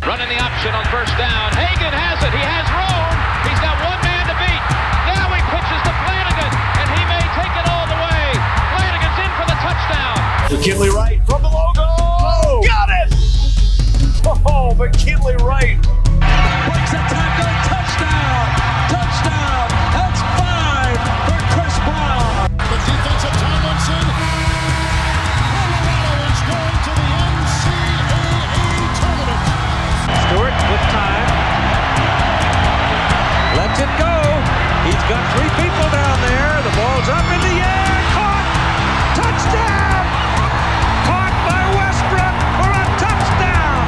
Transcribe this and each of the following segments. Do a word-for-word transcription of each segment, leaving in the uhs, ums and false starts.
Running the option on first down. Hagan has it. He has room. He's got one man to beat. Now he pitches to Flanagan, and he may take it all the way. Flanagan's in for the touchdown. McKinley Wright from the logo. Oh, got it! Oh, McKinley Wright. Breaks a tackle. Touchdown. Touchdown. That's five for Chris Brown. The defense of Tomlinson. Colorado is going to the N C double A tournament. Stewart with time. Lets it go. He's got three people down there. The ball's up in the air. Caught. Touchdown. Caught by Westbrook for a touchdown.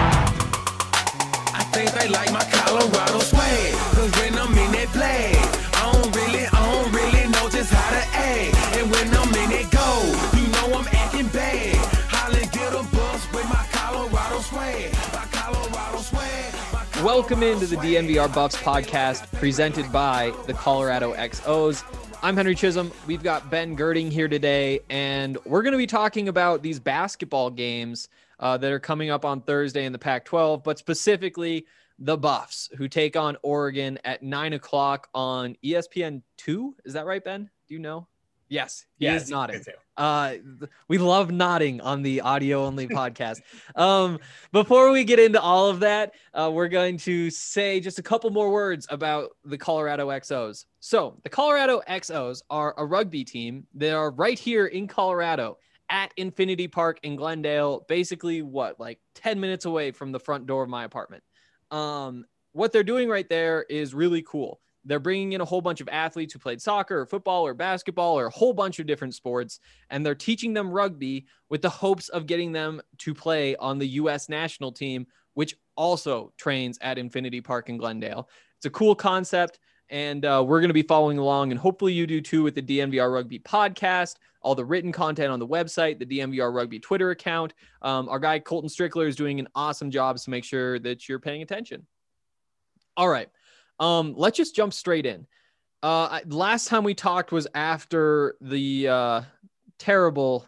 I think they like my Colorado swag. Cause when I'm in that play, I don't really, I don't really know just how to act. And when I'm in it go, you know I'm acting bad. Holland get a bus with my Colorado swag. My Colorado swag. My Welcome into the D N V R Buffs podcast presented by the Colorado X Os. I'm Henry Chisholm. We've got Ben Girding here today, and we're going to be talking about these basketball games uh, that are coming up on Thursday in the Pac twelve, but specifically the Buffs, who take on Oregon at nine o'clock on E S P N two. Is that right, Ben? Do you know? Yes, he Yes, is nodding. me too. Uh, th- we love nodding on the audio-only podcast. Um, before we get into all of that, uh, we're going to say just a couple more words about the Colorado X Os. So the Colorado X Os are a rugby team. They are right here in Colorado at Infinity Park in Glendale, basically what, like ten minutes away from the front door of my apartment. Um, what they're doing right there is really cool. They're bringing in a whole bunch of athletes who played soccer or football or basketball or a whole bunch of different sports, and they're teaching them rugby with the hopes of getting them to play on the U S national team, which also trains at Infinity Park in Glendale. It's a cool concept, and uh, we're going to be following along, and hopefully you do too with the D N V R Rugby podcast, all the written content on the website, the D N V R Rugby Twitter account. Um, our guy Colton Strickler is doing an awesome job, so make sure that you're paying attention. All right. Um, let's just jump straight in. Uh, last time we talked was after the uh, terrible,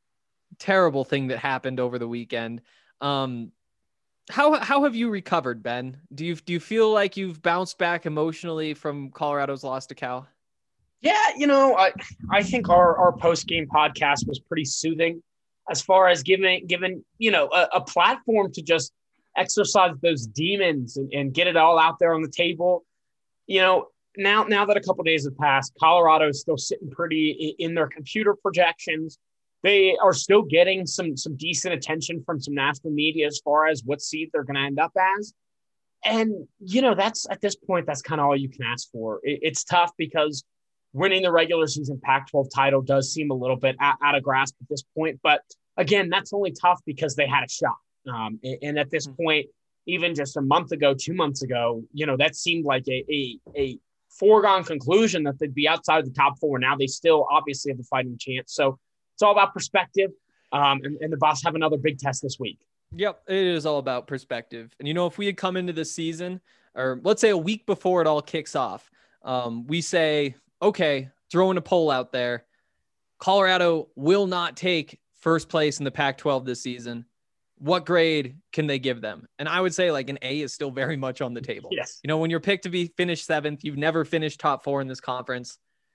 terrible thing that happened over the weekend. Um, how how have you recovered, Ben? Do you do you feel like you've bounced back emotionally from Colorado's loss to Cal? Yeah, you know, I I think our our post game podcast was pretty soothing, as far as giving giving you know a, a platform to just exercise those demons and, and get it all out there on the table. You know, now now that a couple of days have passed, Colorado is still sitting pretty in their computer projections. They are still getting some some decent attention from some national media as far as what seed they're going to end up as. And, you know, that's at this point, that's kind of all you can ask for. It, it's tough because winning the regular season Pac twelve title does seem a little bit out, out of grasp at this point. But again, that's only tough because they had a shot. Um, and, and at this point, even just a month ago, two months ago, you know, that seemed like a, a, a foregone conclusion that they'd be outside the top four. Now they still obviously have the fighting chance. So it's all about perspective. Um, and, and the Buffs have another big test this week. Yep, it is all about perspective. And, you know, if we had come into the season, or let's say a week before it all kicks off, um, we say, okay, throwing a poll out there, Colorado will not take first place in the Pac twelve this season. What grade can they give them? And I would say like an A is still very much on the table. Yes. You know, when you're picked to be finished seventh, you've never finished top four in this conference.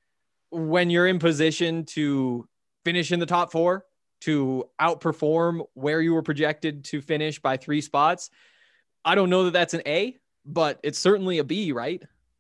When you're in position to finish in the top four, to outperform where you were projected to finish by three spots, I don't know that that's an A, but it's certainly a B, right?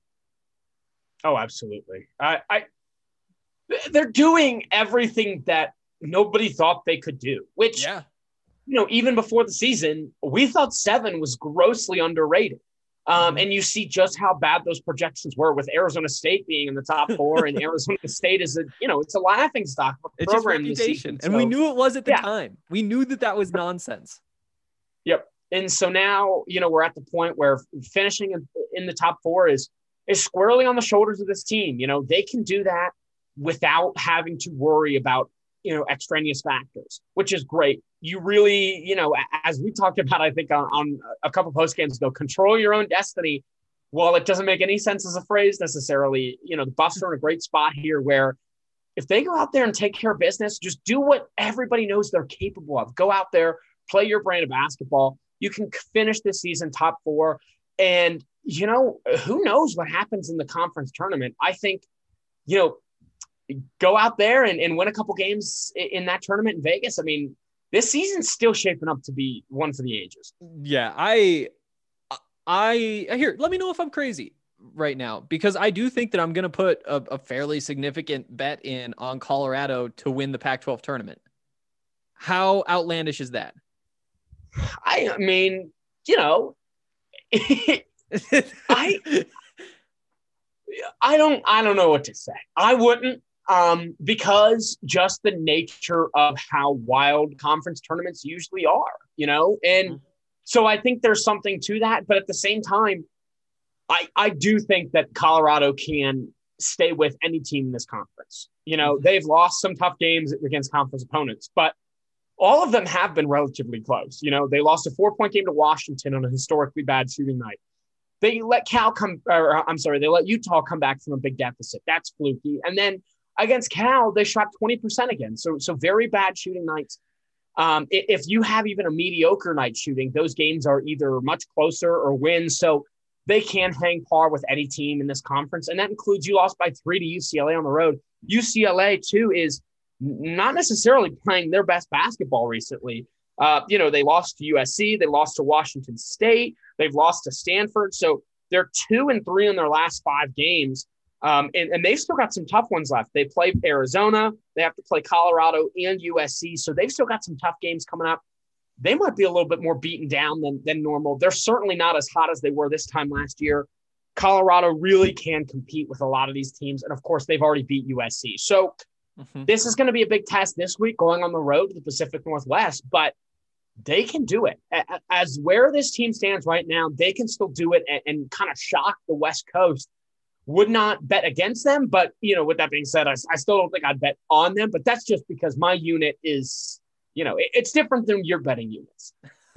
Oh, absolutely. I, I they're doing everything that nobody thought they could do, which, yeah. you know, even before the season, we thought seven was grossly underrated. Um, and you see just how bad those projections were, with Arizona State being in the top four, and Arizona State is a, you know, it's a laughing stock of a It's just program this reputation. season. And So- we knew it was at the yeah. time. We knew that that was nonsense. Yep. And so now, you know, we're at the point where finishing in, in the top four is, is squarely on the shoulders of this team. You know, they can do that without having to worry about, you know, extraneous factors, which is great. You really, you know, as we talked about, I think on, on a couple post games ago, control your own destiny. Well, it doesn't make any sense as a phrase necessarily. You know, the Buffs are in a great spot here where if they go out there and take care of business, just do what everybody knows they're capable of. Go out there, play your brand of basketball. You can finish the season top four. And, you know, who knows what happens in the conference tournament. I think, you know, go out there and, and win a couple games in that tournament in Vegas. I mean, this season's still shaping up to be one for the ages. Yeah, I, I, here, let me know if I'm crazy right now, because I do think that I'm going to put a, a fairly significant bet in on Colorado to win the Pac twelve tournament. How outlandish is that? I mean, you know, I, I don't, I don't know what to say. I wouldn't, um, because just the nature of how wild conference tournaments usually are, you know, and mm-hmm. so I think there's something to that, but at the same time, I, I do think that Colorado can stay with any team in this conference. You know, mm-hmm. they've lost some tough games against conference opponents, but all of them have been relatively close. You know, they lost a four-point game to Washington on a historically bad shooting night. They let Cal come, or I'm sorry, they let Utah come back from a big deficit. That's fluky. And then against Cal, they shot twenty percent again. So, so very bad shooting nights. Um, if you have even a mediocre night shooting, those games are either much closer or win. So they can hang par with any team in this conference. And that includes you lost by three to U C L A on the road. U C L A, too, is not necessarily playing their best basketball recently. Uh, you know, they lost to U S C. They lost to Washington State. They've lost to Stanford. So they're two and three in their last five games. Um, and, and they've still got some tough ones left. They play Arizona. They have to play Colorado and U S C. So they've still got some tough games coming up. They might be a little bit more beaten down than, than normal. They're certainly not as hot as they were this time last year. Colorado really can compete with a lot of these teams. And, of course, they've already beat U S C. So mm-hmm. this is going to be a big test this week going on the road to the Pacific Northwest. But they can do it. As where this team stands right now, they can still do it and, and kind of shock the West Coast. Would not bet against them. But, you know, with that being said, I, I still don't think I'd bet on them. But that's just because my unit is – you know, it's different than your betting units.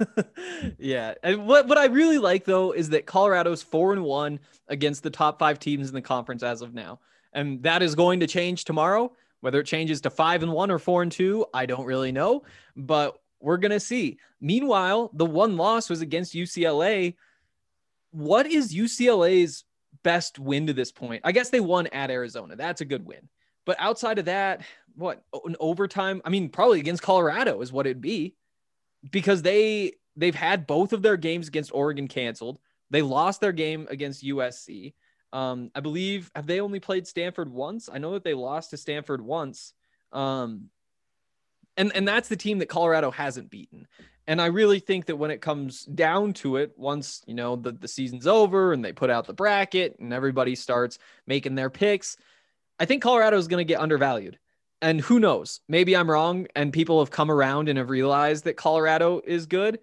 Yeah. And what, what I really like, though, is that Colorado's four and one against the top five teams in the conference as of now. And that is going to change tomorrow. Whether it changes to five and one or four and two, I don't really know, but we're going to see. Meanwhile, the one loss was against U C L A. What is U C L A's best win to this point? I guess they won at Arizona. That's a good win. But outside of that, what, an overtime? I mean, probably against Colorado is what it'd be, because they, they've had both of their games against Oregon canceled. They lost their game against U S C. Um, I believe, have they only played Stanford once? I know that they lost to Stanford once. Um, and, and that's the team that Colorado hasn't beaten. And I really think that when it comes down to it, once, you know, the, the season's over and they put out the bracket and everybody starts making their picks, I think Colorado is going to get undervalued. And who knows, maybe I'm wrong and people have come around and have realized that Colorado is good.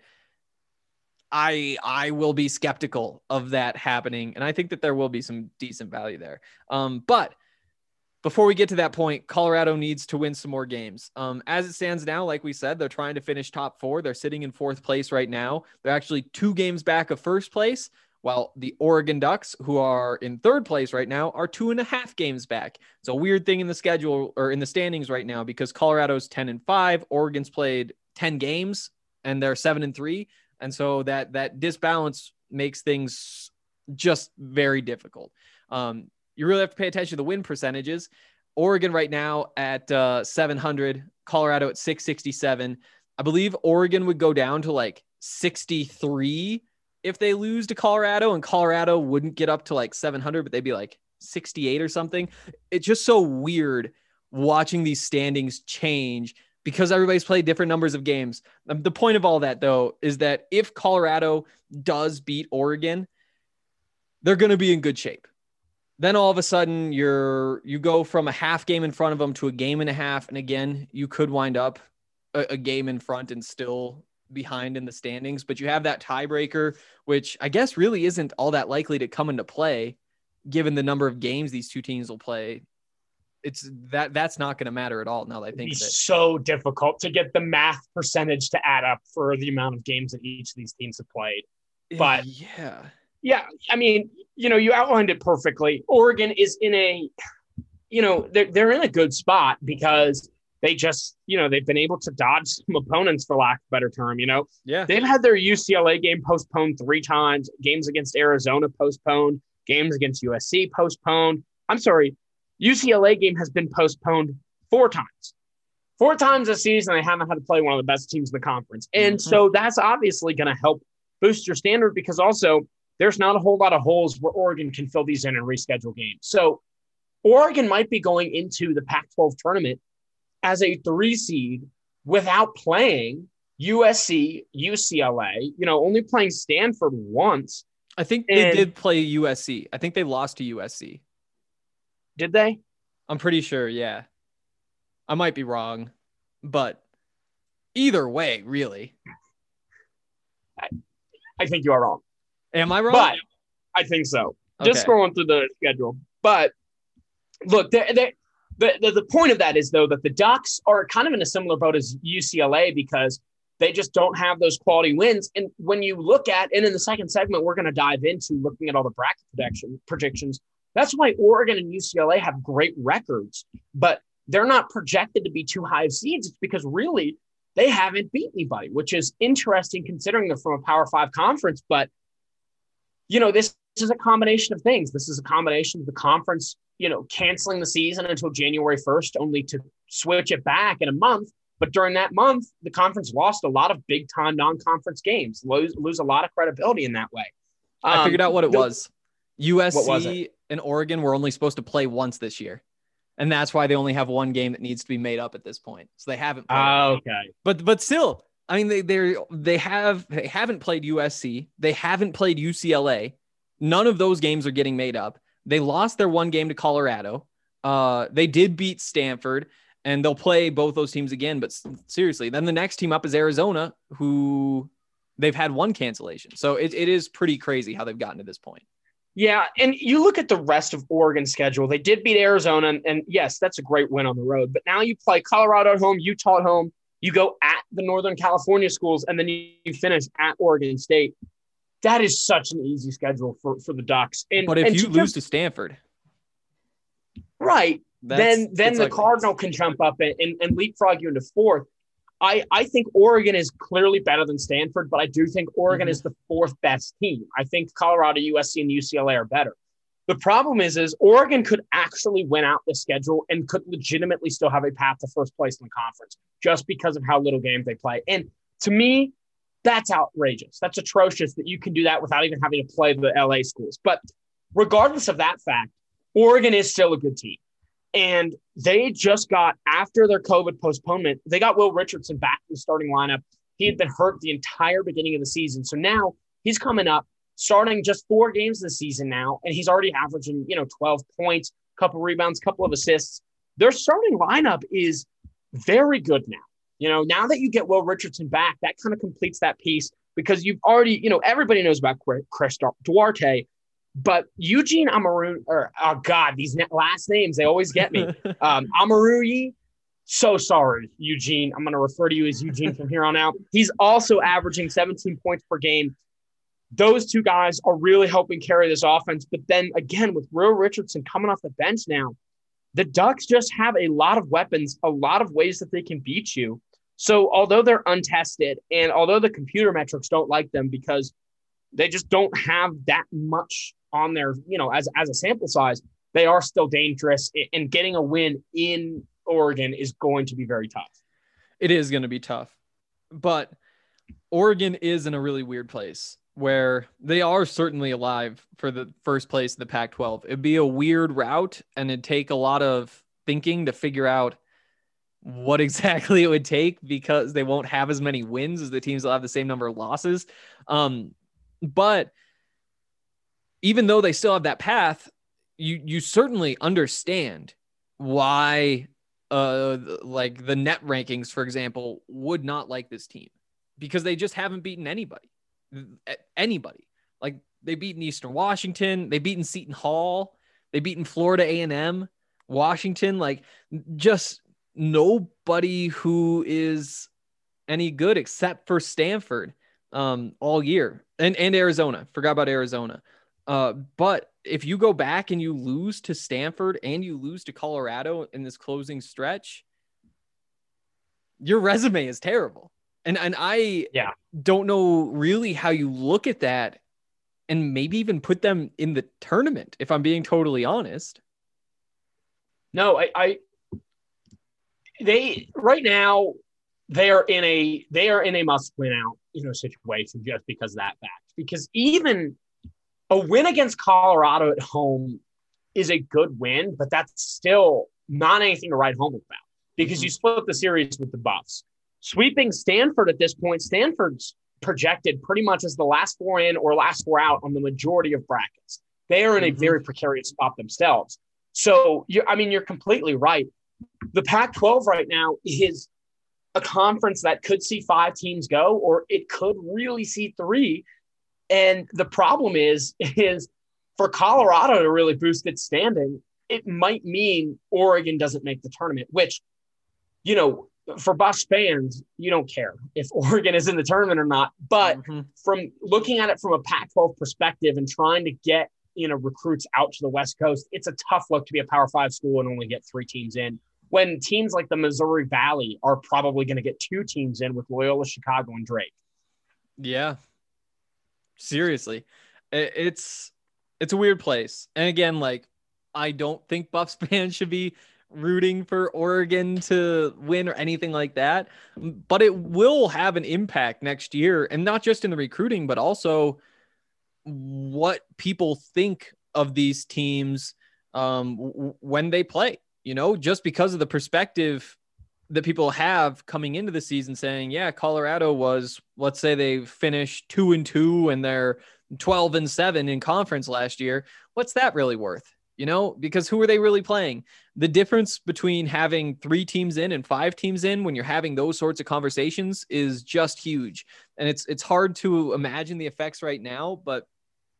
I I will be skeptical of that happening. And I think that there will be some decent value there. Um, but before we get to that point, Colorado needs to win some more games. Um, as it stands now, like we said, they're trying to finish top four. They're sitting in fourth place right now. They're actually two games back of first place, while the Oregon Ducks, who are in third place right now, are two and a half games back. It's a weird thing in the schedule or in the standings right now, because Colorado's ten and five, Oregon's played ten games and they're seven and three. And so that, that disbalance makes things just very difficult. Um, you really have to pay attention to the win percentages. Oregon right now at uh, seven hundred, Colorado at six sixty-seven. I believe Oregon would go down to like sixty-three if they lose to Colorado, and Colorado wouldn't get up to like seven hundred, but they'd be like sixty-eight or something. It's just so weird watching these standings change because everybody's played different numbers of games. Um, the point of all that, though, is that if Colorado does beat Oregon, they're going to be in good shape. Then all of a sudden you're, you go from a half game in front of them to a game and a half. And again, you could wind up a, a game in front and still behind in the standings, but you have that tiebreaker, which I guess really isn't all that likely to come into play given the number of games these two teams will play. It's that that's not going to matter at all. Now that I think it's of it. So difficult to get the math percentage to add up for the amount of games that each of these teams have played. But yeah, yeah, I mean, you know, you outlined it perfectly. Oregon is in a, you know, they're, they're in a good spot because they just, you know, they've been able to dodge some opponents, for lack of a better term. You know, Yeah. they've had their U C L A game postponed three times, games against Arizona postponed, games against U S C postponed. I'm sorry, U C L A game has been postponed four times. Four times this season, they haven't had to play one of the best teams in the conference. And Mm-hmm. so that's obviously going to help boost your standard, because also there's not a whole lot of holes where Oregon can fill these in and reschedule games. So Oregon might be going into the Pac twelve tournament as a three seed without playing U S C, U C L A, you know, only playing Stanford once. I think they And- did play U S C. I think they lost to U S C. Did they? I'm pretty sure. Yeah. I might be wrong, but either way, really. I think you are wrong. Am I wrong? But I think so. Just Okay. scrolling through the schedule. But look, they, they, the, the the point of that is, though, that the Ducks are kind of in a similar boat as U C L A, because they just don't have those quality wins. And when you look at, and in the second segment, we're going to dive into looking at all the bracket prediction, predictions. That's why Oregon and U C L A have great records, but they're not projected to be too high of seeds. It's because really they haven't beat anybody, which is interesting considering they're from a Power Five conference. But, you know, this, this is a combination of things. This is a combination of the conference, you know, canceling the season until January first, only to switch it back in a month. But during that month, the conference lost a lot of big-time non-conference games, lose, lose a lot of credibility in that way. I figured out what it the- was. U S What was C and Oregon were only supposed to play once this year. And that's why they only have one game that needs to be made up at this point. So they haven't played. Oh, okay. But but still, I mean, they they they have they haven't played U S C. They haven't played U C L A. None of those games are getting made up. They lost their one game to Colorado. Uh, they did beat Stanford, and they'll play both those teams again. But seriously, then the next team up is Arizona, who they've had one cancellation. So it, it is pretty crazy how they've gotten to this point. Yeah, and you look at the rest of Oregon's schedule. They did beat Arizona, and, and yes, that's a great win on the road. But now you play Colorado at home, Utah at home. You go at the Northern California schools, and then you, you finish at Oregon State. That is such an easy schedule for, for the Ducks. And But if and you to lose just- to Stanford, right, that's- then then it's the ugly. Cardinal can jump up and, and, and leapfrog you into fourth. I, I think Oregon is clearly better than Stanford, but I do think Oregon Mhm. is the fourth best team. I think Colorado, U S C, and U C L A are better. The problem is, is Oregon could actually win out the schedule and could legitimately still have a path to first place in the conference just because of how little games they play. And to me, that's outrageous. That's atrocious that you can do that without even having to play the L A schools. But regardless of that fact, Oregon is still a good team. And they just got, after their COVID postponement, they got Will Richardson back in the starting lineup. He had been hurt the entire beginning of the season. So now he's coming up, starting just four games this season now, and he's already averaging, you know, twelve points, couple rebounds, couple of assists. Their starting lineup is very good now. You know, now that you get Will Richardson back, that kind of completes that piece, because you've already, you know, everybody knows about Chris Duarte. But Eugene Amaru, or oh God, these last names, they always get me. Um, Amaruyi, so sorry, Eugene. I'm going to refer to you as Eugene from here on out. He's also averaging seventeen points per game. Those two guys are really helping carry this offense. But then again, with Will Richardson coming off the bench now, the Ducks just have a lot of weapons, a lot of ways that they can beat you. So although they're untested, and although the computer metrics don't like them because they just don't have that much on their, you know, as, as a sample size, they are still dangerous, and getting a win in Oregon is going to be very tough. It is going to be tough, but Oregon is in a really weird place where they are certainly alive for the first place in the Pac twelve. It'd be a weird route, and it'd take a lot of thinking to figure out what exactly it would take, because they won't have as many wins as the teams that have the same number of losses. Um, but even though they still have that path, you you certainly understand why uh like the net rankings, for example, would not like this team, because they just haven't beaten anybody. Anybody. Like, they beaten Eastern Washington, they beaten Seton Hall, they beaten Florida A and M, Washington, like just nobody who is any good except for Stanford um all year, and and Arizona. Forgot about Arizona. Uh, but if you go back and you lose to Stanford and you lose to Colorado in this closing stretch, your resume is terrible. And and I yeah. don't know really how you look at that and maybe even put them in the tournament, if I'm being totally honest. No, I, I they right now they are in a they are in a must win out, you know, situation just because of that fact. Because even a win against Colorado at home is a good win, but that's still not anything to write home about because mm-hmm. you split the series with the Buffs. Sweeping Stanford at this point, Stanford's projected pretty much as the last four in or last four out on the majority of brackets. They are in a mm-hmm. very precarious spot themselves. So, you I mean, you're completely right. The Pac twelve right now is a conference that could see five teams go, or it could really see three. And the problem is, is for Colorado to really boost its standing, it might mean Oregon doesn't make the tournament, which, you know, for Buffs fans, you don't care if Oregon is in the tournament or not. But mm-hmm. from looking at it from a Pac twelve perspective and trying to get, you know, recruits out to the West Coast, it's a tough look to be a Power Five school and only get three teams in, when teams like the Missouri Valley are probably going to get two teams in with Loyola Chicago and Drake. Yeah, seriously, it's it's a weird place. And again, like, I don't think Buffs fans should be rooting for Oregon to win or anything like that, but it will have an impact next year, and not just in the recruiting, but also what people think of these teams um, w- when they play, you know, just because of the perspective that people have coming into the season saying, yeah, Colorado was, let's say they finished two and two and they're twelve and seven in conference last year. What's that really worth? You know, because who are they really playing? The difference between having three teams in and five teams in when you're having those sorts of conversations is just huge. And it's, it's hard to imagine the effects right now, but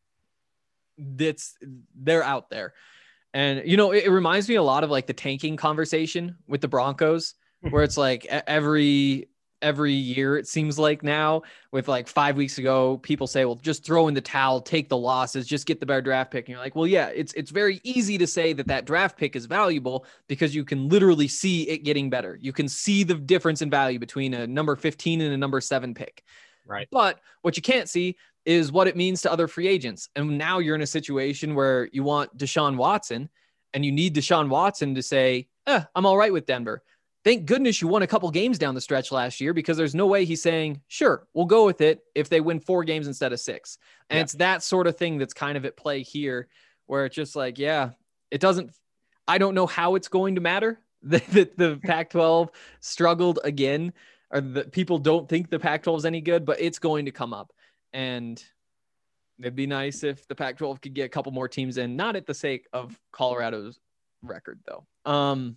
that's, they're out there. And, you know, it, it reminds me a lot of like the tanking conversation with the Broncos, where it's like every, every year, it seems like now, with like five weeks ago, people say, well, just throw in the towel, take the losses, just get the better draft pick. And you're like, well, yeah, it's, it's very easy to say that that draft pick is valuable because you can literally see it getting better. You can see the difference in value between a number fifteen and a number seven pick. Right. But what you can't see is what it means to other free agents. And now you're in a situation where you want Deshaun Watson and you need Deshaun Watson to say, eh, I'm all right with Denver. Thank goodness you won a couple games down the stretch last year, because there's no way he's saying, sure, we'll go with it if they win four games instead of six. And yeah. it's that sort of thing that's kind of at play here, where it's just like, yeah, it doesn't, I don't know how it's going to matter that the, the Pac twelve struggled again, or that people don't think the Pac twelve is any good, but it's going to come up. And it'd be nice if the Pac twelve could get a couple more teams in, not at the sake of Colorado's record though. Um,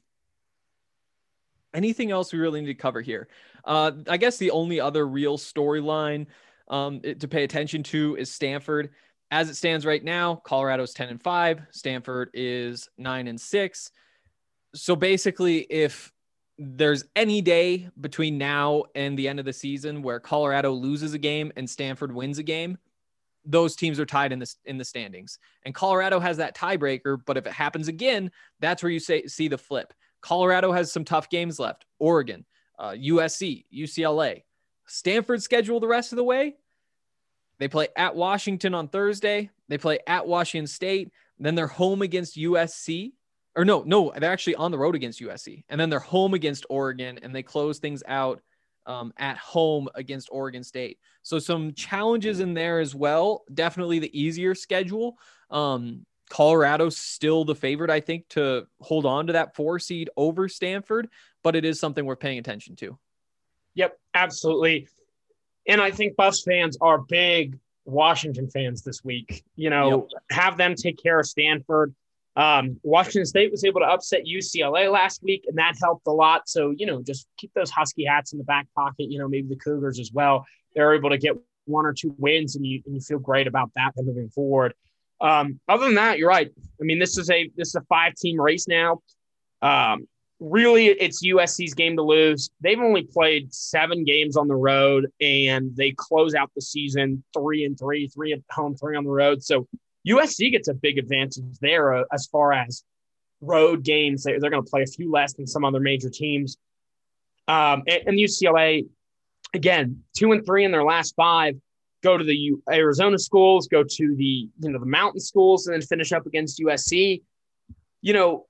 Anything else we really need to cover here? Uh, I guess the only other real storyline um, to pay attention to is Stanford. As it stands right now, Colorado's ten and five. Stanford is nine and six. So basically, if there's any day between now and the end of the season where Colorado loses a game and Stanford wins a game, those teams are tied in the, in the standings. And Colorado has that tiebreaker, but if it happens again, that's where you say, see the flip. Colorado has some tough games left. Oregon, uh, U S C, U C L A. Stanford schedule the rest of the way. They play at Washington on Thursday. They play at Washington State. Then they're home against U S C. Or no, no, they're actually on the road against U S C. And then they're home against Oregon, and they close things out um, at home against Oregon State. So some challenges in there as well. Definitely the easier schedule. Um, Colorado's still the favorite, I think, to hold on to that four seed over Stanford, but it is something we're paying attention to. Yep, absolutely. And I think Buffs fans are big Washington fans this week. You know, yep. Have them take care of Stanford. Um, Washington State was able to upset U C L A last week, and that helped a lot. So, you know, just keep those Husky hats in the back pocket. You know, maybe the Cougars as well. They're able to get one or two wins, and you, and you feel great about that moving forward. Um, other than that, you're right. I mean, this is a this is a five-team race now. Um, really, it's U S C's game to lose. They've only played seven games on the road, and they close out the season three and three, three at home, three on the road. So U S C gets a big advantage there uh, as far as road games. They, they're going to play a few less than some other major teams. Um, and, and U C L A, again, two and three in their last five, go to the U- Arizona schools, go to the, you know, the mountain schools, and then finish up against U S C. You know,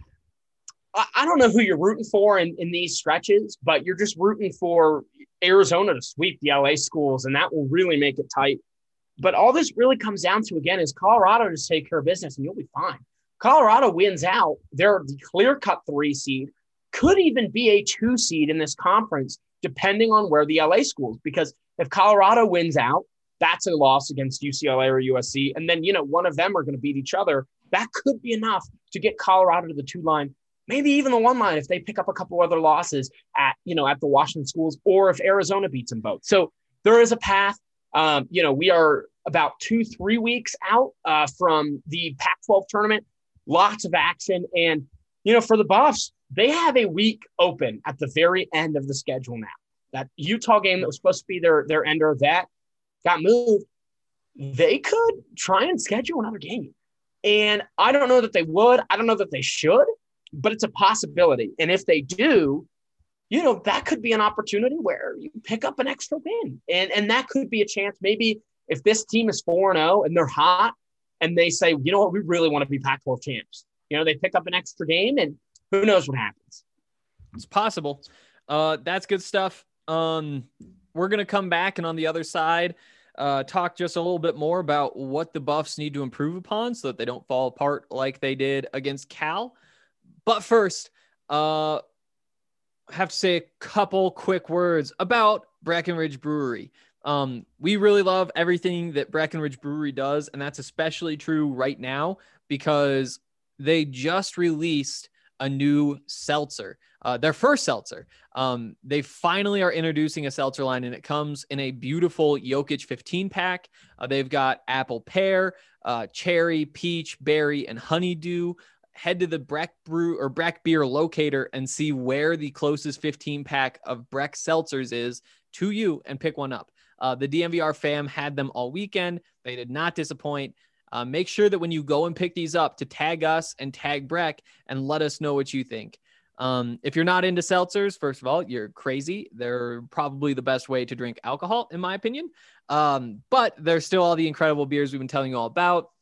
I, I don't know who you're rooting for in, in these stretches, but you're just rooting for Arizona to sweep the L A schools, and that will really make it tight. But all this really comes down to, again, is Colorado just take care of business, and you'll be fine. Colorado wins out. They're the clear-cut three seed, could even be a two seed in this conference, depending on where the L A schools, because if Colorado wins out, that's a loss against U C L A or U S C. And then, you know, one of them are going to beat each other. That could be enough to get Colorado to the two line, maybe even the one line if they pick up a couple other losses at, you know, at the Washington schools, or if Arizona beats them both. So there is a path. Um, you know, we are about two, three weeks out uh, from the Pac twelve tournament, lots of action. And, you know, for the Buffs, they have a week open at the very end of the schedule now. That Utah game that was supposed to be their, their ender, that got moved. They could try and schedule another game. And I don't know that they would. I don't know that they should, but it's a possibility. And if they do, you know, that could be an opportunity where you pick up an extra win. And, and that could be a chance. Maybe if this team is four and oh and they're hot and they say, you know what, we really want to be Pac twelve champs. You know, they pick up an extra game and who knows what happens. It's possible. Uh, that's good stuff. Um, we're going to come back and on the other side, uh, talk just a little bit more about what the Buffs need to improve upon so that they don't fall apart like they did against Cal. But first, uh, I have to say a couple quick words about Breckenridge Brewery. Um, we really love everything that Breckenridge Brewery does, and that's especially true right now because they just released a new seltzer, uh, their first seltzer. Um, they finally are introducing a seltzer line, and it comes in a beautiful Jokic fifteen pack. Uh, they've got apple pear, uh, cherry, peach, berry, and honeydew. Head to the Breck Brew or Breck Beer locator and see where the closest fifteen pack of Breck seltzers is to you and pick one up. Uh, the D M V R fam had them all weekend. They did not disappoint. Uh, make sure that when you go and pick these up to tag us and tag Breck and let us know what you think. Um, if you're not into seltzers, first of all, you're crazy. They're probably the best way to drink alcohol, in my opinion. Um, but there's still all the incredible beers we've been telling you all about.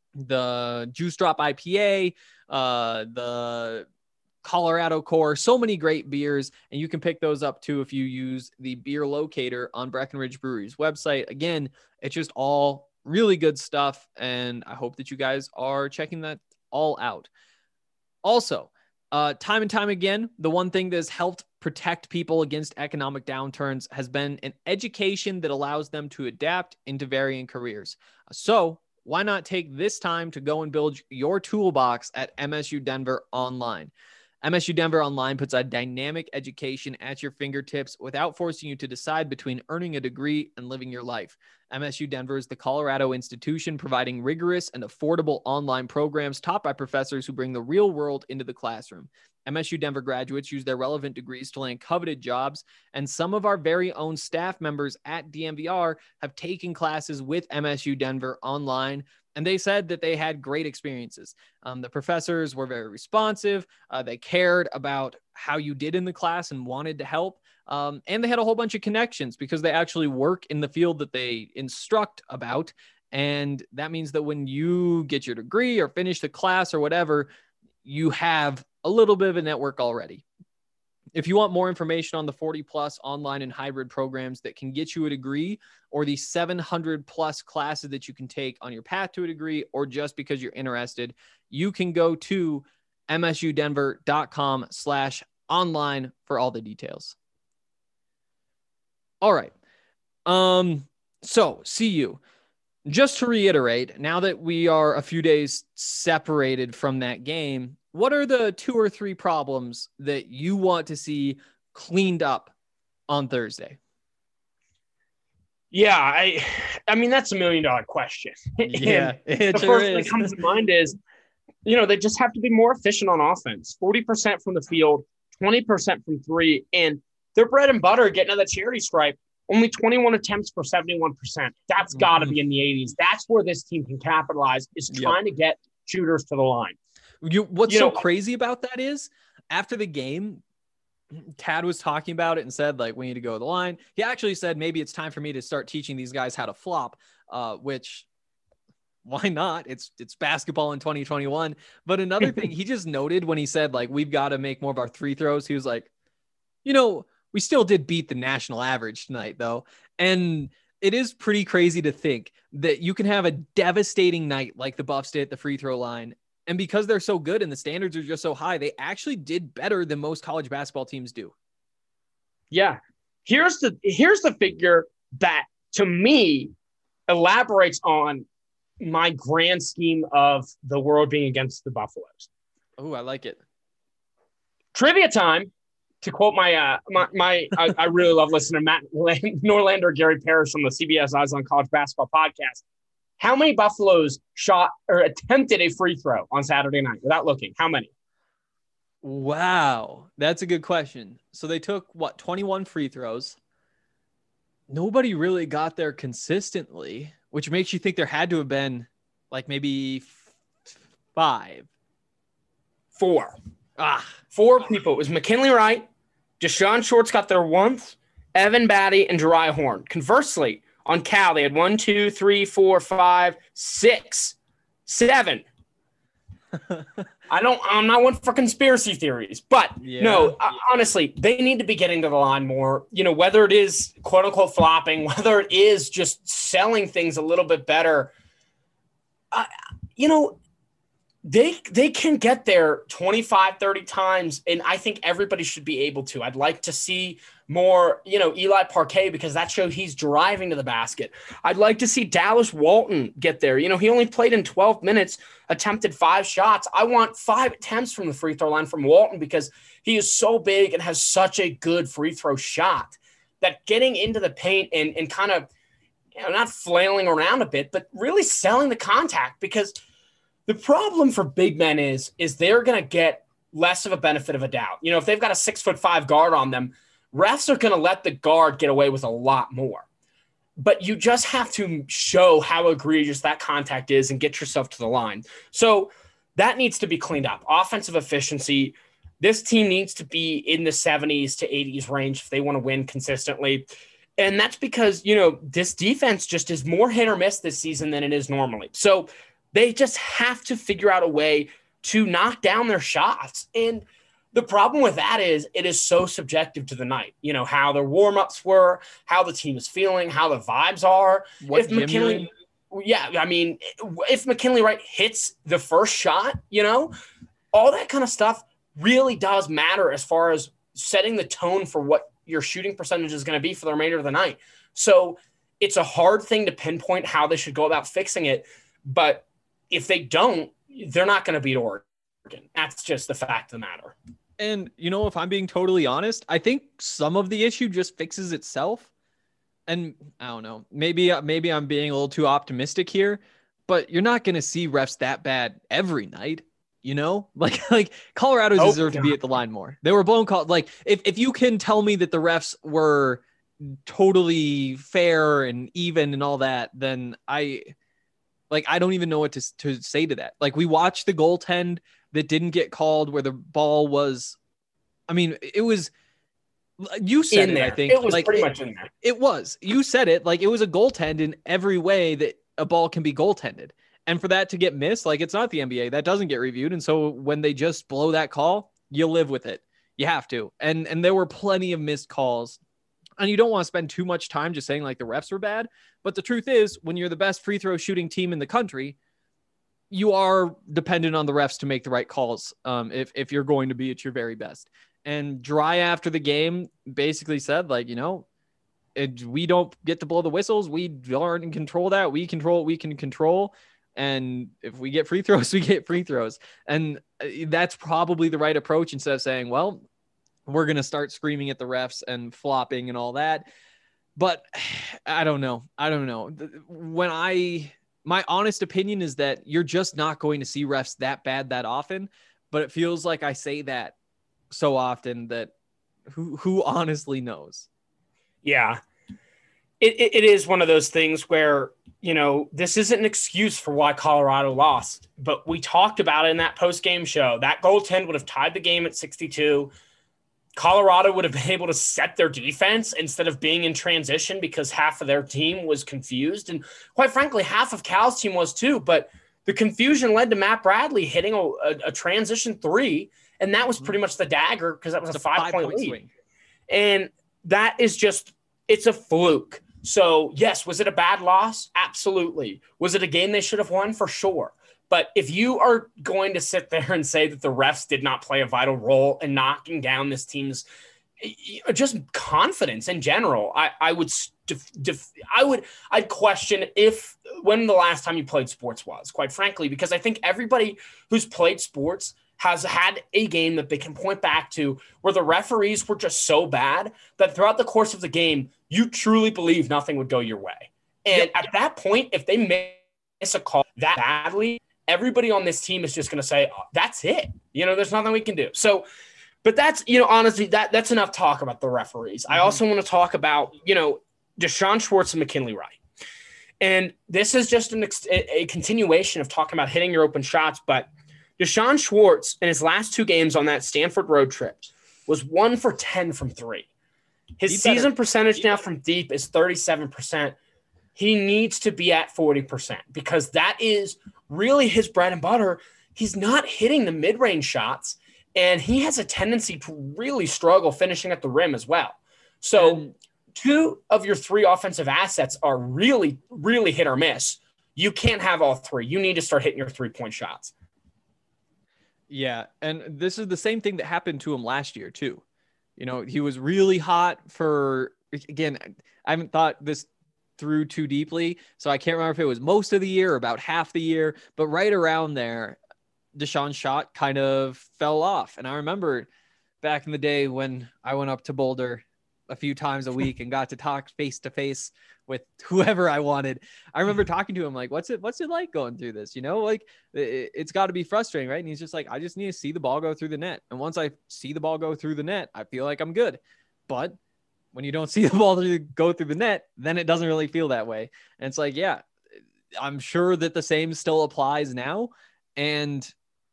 The Juice Drop I P A, uh, the Colorado Core, so many great beers, and you can pick those up too if you use the beer locator on Breckenridge Brewery's website. Again, it's just all really good stuff, and I hope that you guys are checking that all out. Also, uh, time and time again, the one thing that has helped protect people against economic downturns has been an education that allows them to adapt into varying careers. So why not take this time to go and build your toolbox at M S U Denver Online? M S U Denver Online puts a dynamic education at your fingertips without forcing you to decide between earning a degree and living your life. M S U Denver is the Colorado institution providing rigorous and affordable online programs taught by professors who bring the real world into the classroom. M S U Denver graduates use their relevant degrees to land coveted jobs, and some of our very own staff members at D M V R have taken classes with M S U Denver Online, and they said that they had great experiences. Um, the professors were very responsive. Uh, they cared about how you did in the class and wanted to help. Um, and they had a whole bunch of connections because they actually work in the field that they instruct about. And that means that when you get your degree or finish the class or whatever, you have a little bit of a network already. If you want more information on the forty plus online and hybrid programs that can get you a degree, or the seven hundred plus classes that you can take on your path to a degree, or just because you're interested, you can go to msudenver.com slash online for all the details. All right. Um, so C U, just to reiterate, now that we are a few days separated from that game, what are the two or three problems that you want to see cleaned up on Thursday? Yeah, I I mean, that's a million dollar question. Yeah, it the sure first thing is. that comes to mind is, you know, they just have to be more efficient on offense. forty percent from the field, twenty percent from three, and their bread and butter getting to the charity stripe, only twenty-one attempts for seventy-one percent. That's mm-hmm. got to be in the eighties. That's where this team can capitalize, is trying yep. to get shooters to the line. You, what's you so know, crazy about that is after the game, Tad was talking about it and said, like, we need to go to the line. He actually said, maybe it's time for me to start teaching these guys how to flop, uh, which why not? It's, it's basketball in twenty twenty-one. But another thing he just noted when he said, like, we've got to make more of our free throws. He was like, you know, we still did beat the national average tonight though. And it is pretty crazy to think that you can have a devastating night like the Buffs did at the free throw line. And because they're so good and the standards are just so high, they actually did better than most college basketball teams do. Yeah. Here's the here's the figure that, to me, elaborates on my grand scheme of the world being against the Buffaloes. Oh, I like it. Trivia time. To quote my, uh, my, my I, I really love listening to Matt Norlander, Gary Parrish on the C B S Eyes on College Basketball podcast. How many Buffaloes shot or attempted a free throw on Saturday night without looking? How many? Wow. That's a good question. So they took, what, twenty-one free throws. Nobody really got there consistently, which makes you think there had to have been like maybe f- five. Four. Ah, Four people. It was McKinley Wright, Deshaun Shorts got there once, Evan Batty, and Jeriah Horn. Conversely, on Cal, they had one, two, three, four, five, six, seven. I don't, I'm not one for conspiracy theories, but yeah. no, uh, honestly, they need to be getting to the line more, you know, whether it is quote unquote flopping, whether it is just selling things a little bit better. Uh, you know, They they can get there twenty-five, thirty times, and I think everybody should be able to. I'd like to see more, you know, Eli Parquet, because that shows he's driving to the basket. I'd like to see Dallas Walton get there. You know, he only played in twelve minutes, attempted five shots. I want five attempts from the free throw line from Walton because he is so big and has such a good free throw shot that getting into the paint and, and kind of, you know, not flailing around a bit, but really selling the contact, because – the problem for big men is, is they're going to get less of a benefit of a doubt. You know, if they've got a six foot five guard on them, refs are going to let the guard get away with a lot more. But you just have to show how egregious that contact is and get yourself to the line. So that needs to be cleaned up. Offensive efficiency. This team needs to be in the seventies to eighties range if they want to win consistently. And that's because, you know, this defense just is more hit or miss this season than it is normally. So they just have to figure out a way to knock down their shots. And the problem with that is it is so subjective to the night. You know, how their warm-ups were, how the team is feeling, how the vibes are. What if McKinley, yeah, I mean, if McKinley Wright hits the first shot, you know, all that kind of stuff really does matter as far as setting the tone for what your shooting percentage is going to be for the remainder of the night. So it's a hard thing to pinpoint how they should go about fixing it. But if they don't, they're not going to beat Oregon. That's just the fact of the matter. And, you know, if I'm being totally honest, I think some of the issue just fixes itself. And I don't know, maybe, maybe I'm being a little too optimistic here, but you're not going to see refs that bad every night. You know, like, like Colorado oh, deserved God. to be at the line more. They were blown call. Like if, if you can tell me that the refs were totally fair and even and all that, then I, Like, I don't even know what to, to say to that. Like, we watched the goaltend that didn't get called where the ball was, I mean, it was, you said in it, there. I think. It was like, pretty it, much in there. It was. You said it. Like, it was a goaltend in every way that a ball can be goaltended. And for that to get missed, like, it's not the N B A. That doesn't get reviewed. And so when they just blow that call, you live with it. You have to. And, and there were plenty of missed calls. And you don't want to spend too much time just saying like the refs were bad. But the truth is, when you're the best free throw shooting team in the country, you are dependent on the refs to make the right calls um, if, if you're going to be at your very best. And Dry after the game basically said, like, you know, it, we don't get to blow the whistles. We aren't in control of that. We control what we can control. And if we get free throws, we get free throws. And that's probably the right approach instead of saying, well, we're going to start screaming at the refs and flopping and all that. But I don't know. I don't know. When I, my honest opinion is that you're just not going to see refs that bad that often, but it feels like I say that so often that who, who honestly knows? Yeah. It, it, it is one of those things where, you know, this isn't an excuse for why Colorado lost, but we talked about it in that post-game show. That goaltend would have tied the game at sixty-two. Colorado would have been able to set their defense instead of being in transition because half of their team was confused. And quite frankly, half of Cal's team was too. But the confusion led to Matt Bradley hitting a, a, a transition three, and that was pretty much the dagger because that was a, a five-point five lead. Swing. And that is just – it's a fluke. So, yes, was it a bad loss? Absolutely. Was it a game they should have won? For sure. But if you are going to sit there and say that the refs did not play a vital role in knocking down this team's just confidence in general, I, I would def, def, I would I'd question if when the last time you played sports was, quite frankly, because I think everybody who's played sports has had a game that they can point back to where the referees were just so bad that throughout the course of the game, you truly believe nothing would go your way. And at that point, if they miss a call that badly, everybody on this team is just going to say, oh, that's it. You know, there's nothing we can do. So, but that's, you know, honestly, that that's enough talk about the referees. Mm-hmm. I also want to talk about, you know, Deshaun Schwartz and McKinley Wright. And this is just an ex- a continuation of talking about hitting your open shots. But Deshaun Schwartz in his last two games on that Stanford road trip was one for ten from three. His he season better. percentage he now better. from deep is thirty-seven percent. He needs to be at forty percent because that is really his bread and butter. He's not hitting the mid-range shots, and he has a tendency to really struggle finishing at the rim as well. So and two of your three offensive assets are really, really hit or miss. You can't have all three. You need to start hitting your three-point shots. Yeah, and this is the same thing that happened to him last year too. You know, he was really hot for, again, I haven't thought this through too deeply, so I can't remember if it was most of the year or about half the year, but right around there, Deshaun's shot kind of fell off. And I remember back in the day when I went up to Boulder a few times a week and got to talk face to face with whoever I wanted. I remember talking to him like, what's it, what's it like going through this? You know, like it, it's gotta be frustrating, right? And he's just like, I just need to see the ball go through the net. And once I see the ball go through the net, I feel like I'm good. But when you don't see the ball through, go through the net, then it doesn't really feel that way. And it's like, yeah, I'm sure that the same still applies now. And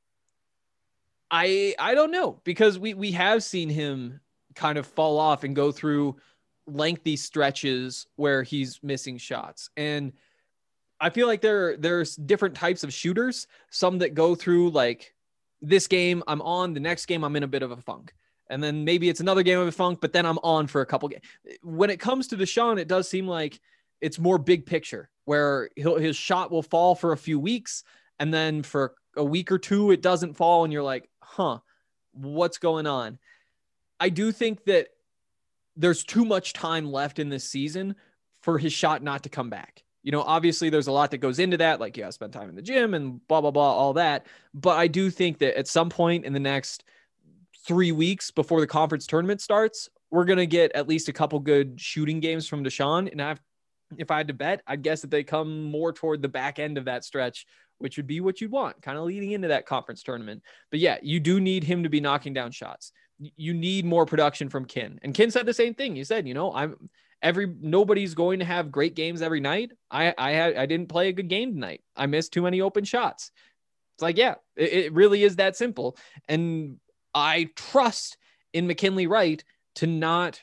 I, I don't know, because we, we have seen him kind of fall off and go through lengthy stretches where he's missing shots. And I feel like there, there's different types of shooters, some that go through like this game I'm on, the next game I'm in a bit of a funk. And then maybe it's another game of a funk, but then I'm on for a couple games. When it comes to Deshaun, it does seem like it's more big picture where he'll, his shot will fall for a few weeks. And then for a week or two, it doesn't fall. And you're like, huh, what's going on? I do think that there's too much time left in this season for his shot not to come back. You know, obviously there's a lot that goes into that. Like, yeah, spend time in the gym and blah, blah, blah, all that. But I do think that at some point in the next three weeks before the conference tournament starts, we're going to get at least a couple good shooting games from Deshaun. And I've, if I had to bet, I'd guess that they come more toward the back end of that stretch, which would be what you'd want, kind of leading into that conference tournament. But yeah, you do need him to be knocking down shots. You need more production from Kin. And Kin said the same thing. He said, you know, I'm every, nobody's going to have great games every night. I, I had, I didn't play a good game tonight. I missed too many open shots. It's like, yeah, it, it really is that simple. And I trust in McKinley Wright to not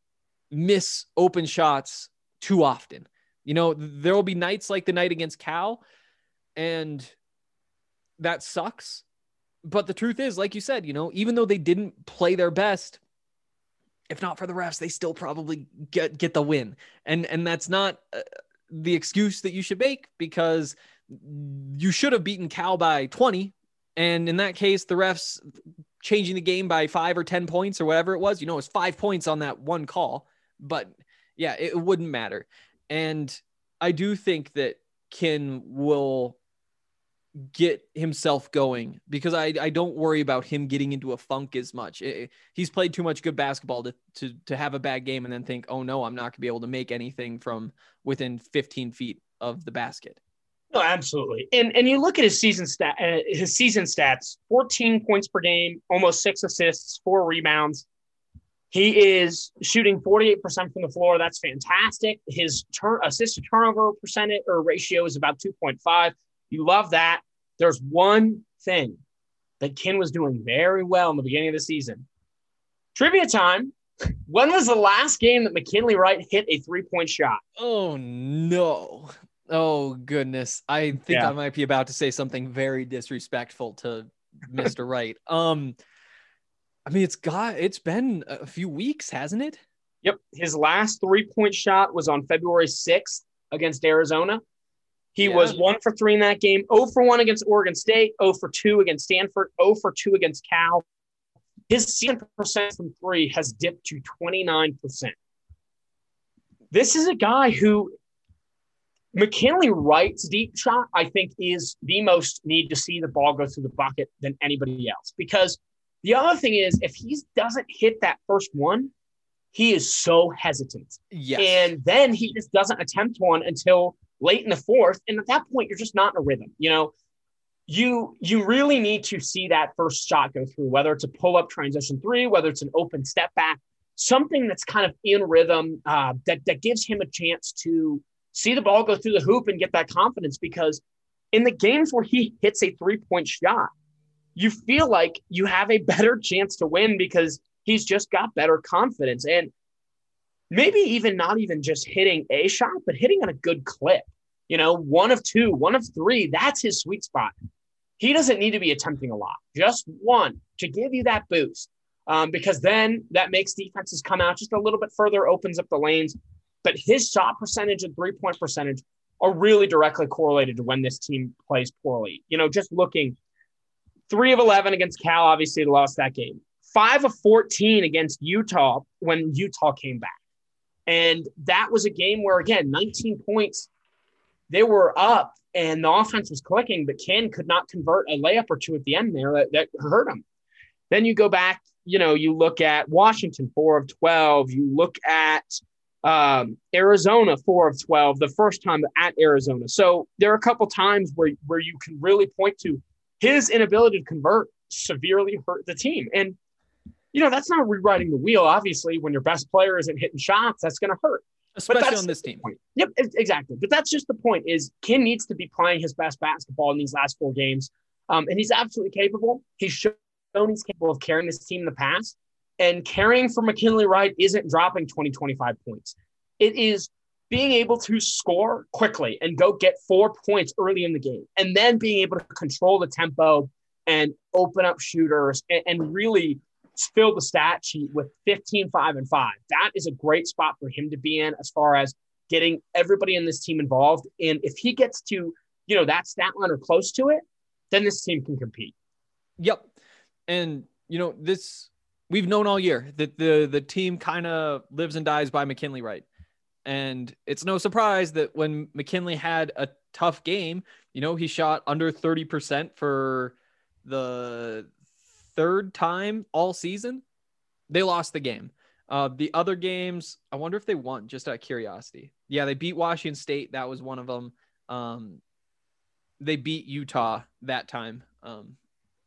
miss open shots too often. You know, there will be nights like the night against Cal, and that sucks. But the truth is, like you said, you know, even though they didn't play their best, if not for the refs, they still probably get, get the win. And, and that's not uh, the excuse that you should make, because you should have beaten Cal by twenty. And in that case, the refs changing the game by five or ten points or whatever it was, you know, it was five points on that one call, but yeah, it wouldn't matter. And I do think that Kin will get himself going, because I, I don't worry about him getting into a funk as much. It, he's played too much good basketball to, to, to have a bad game and then think, oh no, I'm not gonna be able to make anything from within fifteen feet of the basket. No, absolutely. And and you look at his season stat, uh, his season stats: fourteen points per game, almost six assists, four rebounds. He is shooting forty-eight percent from the floor. That's fantastic. His turn assist to turnover percentage or ratio is about two point five. You love that. There's one thing that Kin was doing very well in the beginning of the season. Trivia time. When was the last game that McKinley Wright hit a three-point shot? Oh, no. Oh, goodness. I think Yeah. I might be about to say something very disrespectful to Mister Wright. Um, I mean, it's got, it's been a few weeks, hasn't it? Yep. His last three-point shot was on February sixth against Arizona. He Yeah. was one for three in that game, zero for one against Oregon State, zero for two against Stanford, zero for two against Cal. His season percent from three has dipped to twenty-nine percent. This is a guy who McKinley Wright's deep shot, I think, is the most need to see the ball go through the bucket than anybody else. Because the other thing is, if he doesn't hit that first one, he is so hesitant. Yes. And then he just doesn't attempt one until late in the fourth. And at that point, you're just not in a rhythm. You know, you you really need to see that first shot go through, whether it's a pull-up transition three, whether it's an open step back, something that's kind of in rhythm uh, that, that gives him a chance to see the ball go through the hoop and get that confidence. Because in the games where he hits a three-point shot, you feel like you have a better chance to win because he's just got better confidence. And maybe even not even just hitting a shot, but hitting on a good clip. You know, one of two, one of three, that's his sweet spot. He doesn't need to be attempting a lot, just one to give you that boost. Um, because then that makes defenses come out just a little bit further, opens up the lanes. But his shot percentage and three-point percentage are really directly correlated to when this team plays poorly. You know, just looking, three of eleven against Cal, obviously they lost that game. five of fourteen against Utah when Utah came back. And that was a game where, again, nineteen points, they were up and the offense was clicking, but Ken could not convert a layup or two at the end there that, that hurt him. Then you go back, you know, you look at Washington, four of twelve. You look at um, Arizona, four of twelve, the first time at Arizona. So there are a couple times where, where you can really point to his inability to convert severely hurt the team. And, you know, that's not rewriting the wheel. Obviously, when your best player isn't hitting shots, that's going to hurt. Especially on this team. Point. Yep, exactly. But that's just the point is Ken needs to be playing his best basketball in these last four games. Um, and he's absolutely capable. He's shown he's capable of carrying this team in the past. And carrying for McKinley Wright isn't dropping twenty, twenty-five points. It is being able to score quickly and go get four points early in the game. And then being able to control the tempo and open up shooters and, and really fill the stat sheet with fifteen, five, and five. That is a great spot for him to be in as far as getting everybody in this team involved. And if he gets to, you know, that stat line or close to it, then this team can compete. Yep. And, you know, this we've known all year that the, the team kind of lives and dies by McKinley Wright. And it's no surprise that when McKinley had a tough game, you know, he shot under thirty percent for the third time all season. They lost the game. Uh, the other games, I wonder if they won, just out of curiosity. Yeah, they beat Washington State. That was one of them. Um, they beat Utah that time. Um,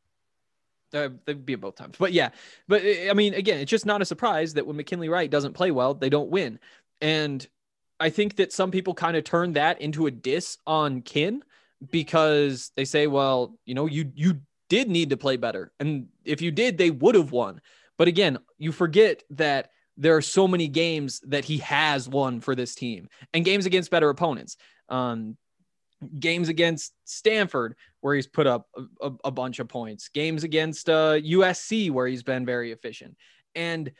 uh, they beat both times. But yeah, but I mean, again, it's just not a surprise that when McKinley Wright doesn't play well, they don't win. And I think that some people kind of turn that into a diss on Ken because they say, well, you know, you you did need to play better. And if you did, they would have won. But again, you forget that there are so many games that he has won for this team and games against better opponents. Um, games against Stanford where he's put up a, a, a bunch of points, games against uh, U S C where he's been very efficient. And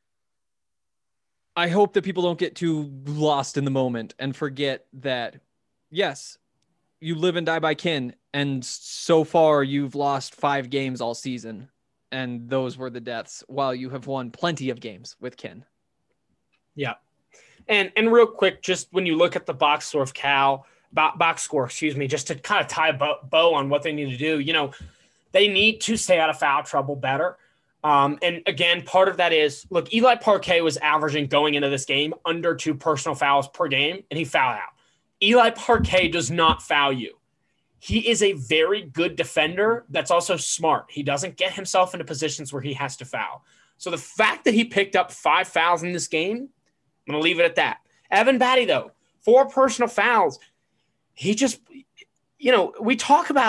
I hope that people don't get too lost in the moment and forget that, yes, you live and die by Ken. And so far you've lost five games all season. And those were the deaths while you have won plenty of games with Ken. Yeah. And, and real quick, just when you look at the box score of Cal, box score, excuse me, just to kind of tie a bow, bow on what they need to do, you know, they need to stay out of foul trouble better. Um, and again, part of that is, look, Eli Parquet was averaging going into this game under two personal fouls per game, and he fouled out. Eli Parquet does not foul you. He is a very good defender that's also smart. He doesn't get himself into positions where he has to foul. So the fact that he picked up five fouls in this game, I'm going to leave it at that. Evan Batty, though, four personal fouls. He just, you know, we talk about it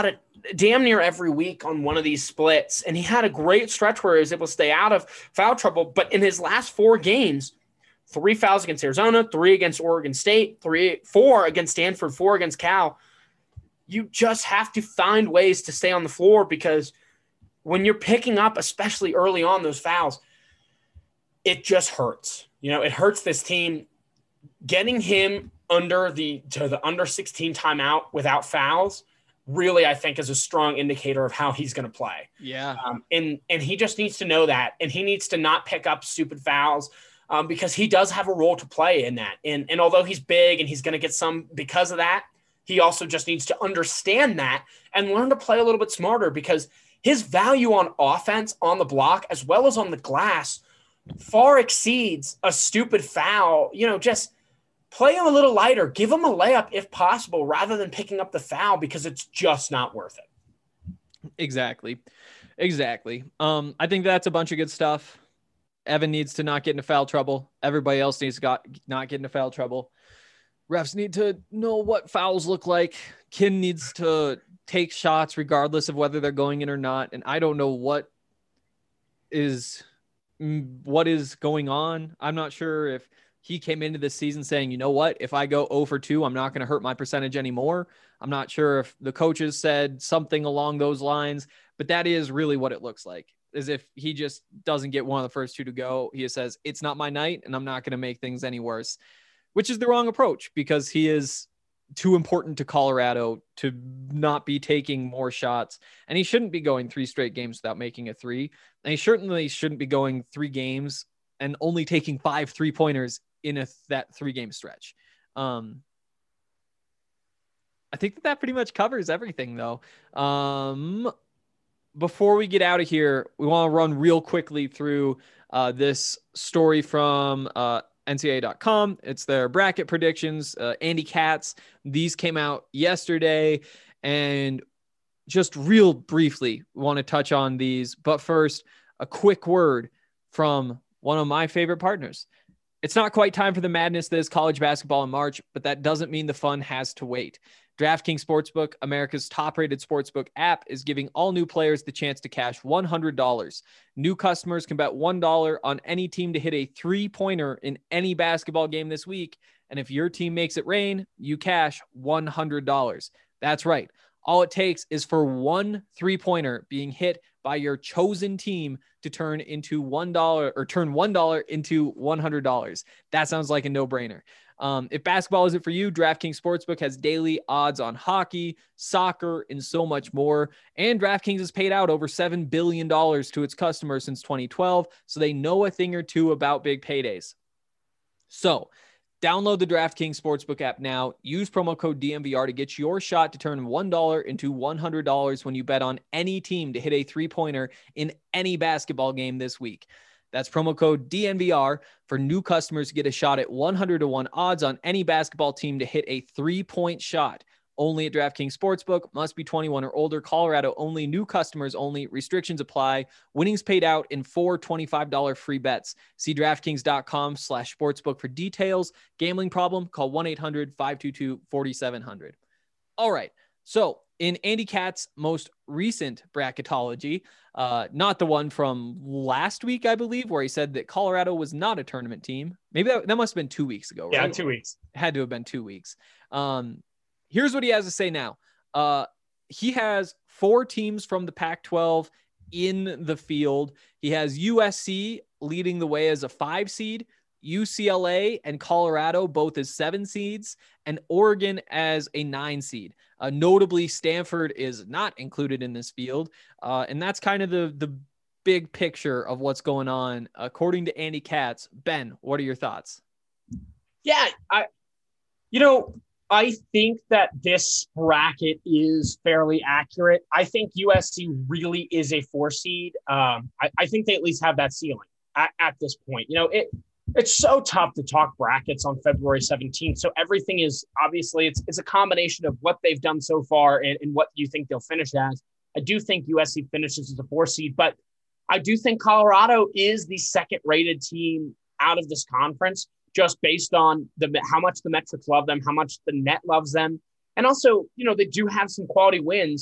damn near every week on one of these splits. And he had a great stretch where he was able to stay out of foul trouble. But in his last four games, three fouls against Arizona, three against Oregon State, three, four against Stanford, four against Cal. You just have to find ways to stay on the floor, because when you're picking up, especially early on, those fouls, it just hurts. You know, it hurts this team. Getting him under the to the under sixteen timeout without fouls really, I think, is a strong indicator of how he's going to play. Yeah. Um, and, and he just needs to know that, and he needs to not pick up stupid fouls um, because he does have a role to play in that. And, and although he's big and he's going to get some because of that, he also just needs to understand that and learn to play a little bit smarter, because his value on offense, on the block, as well as on the glass, far exceeds a stupid foul. You know, just play him a little lighter, give him a layup if possible, rather than picking up the foul, because it's just not worth it. Exactly. Exactly. Um, I think that's a bunch of good stuff. Evan needs to not get into foul trouble. Everybody else needs to got, not get into foul trouble. Refs need to know what fouls look like. Kin needs to take shots regardless of whether they're going in or not. And I don't know what is, what is going on. I'm not sure if he came into this season saying, you know what, if I go zero for two, I'm not going to hurt my percentage anymore. I'm not sure if the coaches said something along those lines, but that is really what it looks like. As if he just doesn't get one of the first two to go. He says, it's not my night and I'm not going to make things any worse, which is the wrong approach, because he is too important to Colorado to not be taking more shots. And he shouldn't be going three straight games without making a three. And he certainly shouldn't be going three games and only taking five three pointers in a, that three game stretch. Um, I think that that pretty much covers everything though. Um, before we get out of here, we want to run real quickly through uh, this story from uh, N C A A dot com. It's their bracket predictions. Uh, Andy Katz, these came out yesterday, and just real briefly want to touch on these. But first, a quick word from one of my favorite partners. It's not quite time for the madness that is college basketball in March, but that doesn't mean the fun has to wait. DraftKings Sportsbook, America's top-rated sportsbook app, is giving all new players the chance to cash one hundred dollars. New customers can bet one dollar on any team to hit a three-pointer in any basketball game this week, and if your team makes it rain, you cash one hundred dollars. That's right. All it takes is for one three-pointer being hit by your chosen team to turn into one dollar or turn one dollar into one hundred dollars. That sounds like a no-brainer. Um, if basketball isn't for you, DraftKings Sportsbook has daily odds on hockey, soccer, and so much more. And DraftKings has paid out over seven billion dollars to its customers since twenty twelve, so they know a thing or two about big paydays. So download the DraftKings Sportsbook app now. Use promo code D M V R to get your shot to turn one dollar into one hundred dollars when you bet on any team to hit a three-pointer in any basketball game this week. That's promo code D N V R for new customers to get a shot at one hundred to one odds on any basketball team to hit a three-point shot. Only at DraftKings Sportsbook. Must be twenty-one or older. Colorado only. New customers only. Restrictions apply. Winnings paid out in four twenty-five dollars free bets. See DraftKings.com slash sportsbook for details. Gambling problem? Call one eight hundred five two two four seven zero zero. All right. So in Andy Katz's most recent bracketology, uh, not the one from last week, I believe, where he said that Colorado was not a tournament team. Maybe that, that must have been two weeks ago, right? Yeah, two weeks. It had to have been two weeks. Um, here's what he has to say now. Uh, he has four teams from the Pac twelve in the field. He has U S C leading the way as a five seed, U C L A and Colorado both as seven seeds, and Oregon as a nine seed. Uh, notably, Stanford is not included in this field, uh, and that's kind of the the big picture of what's going on, according to Andy Katz. Ben, what are your thoughts? Yeah, I, you know, I think that this bracket is fairly accurate. I think U S C really is a four seed. Um, I, I think they at least have that ceiling at, at this point. You know, it. It's so tough to talk brackets on February seventeenth. So everything is obviously it's it's a combination of what they've done so far and, and what you think they'll finish as. I do think U S C finishes as a four seed, but I do think Colorado is the second rated team out of this conference, just based on the how much the metrics love them, how much the net loves them. And also, you know, they do have some quality wins.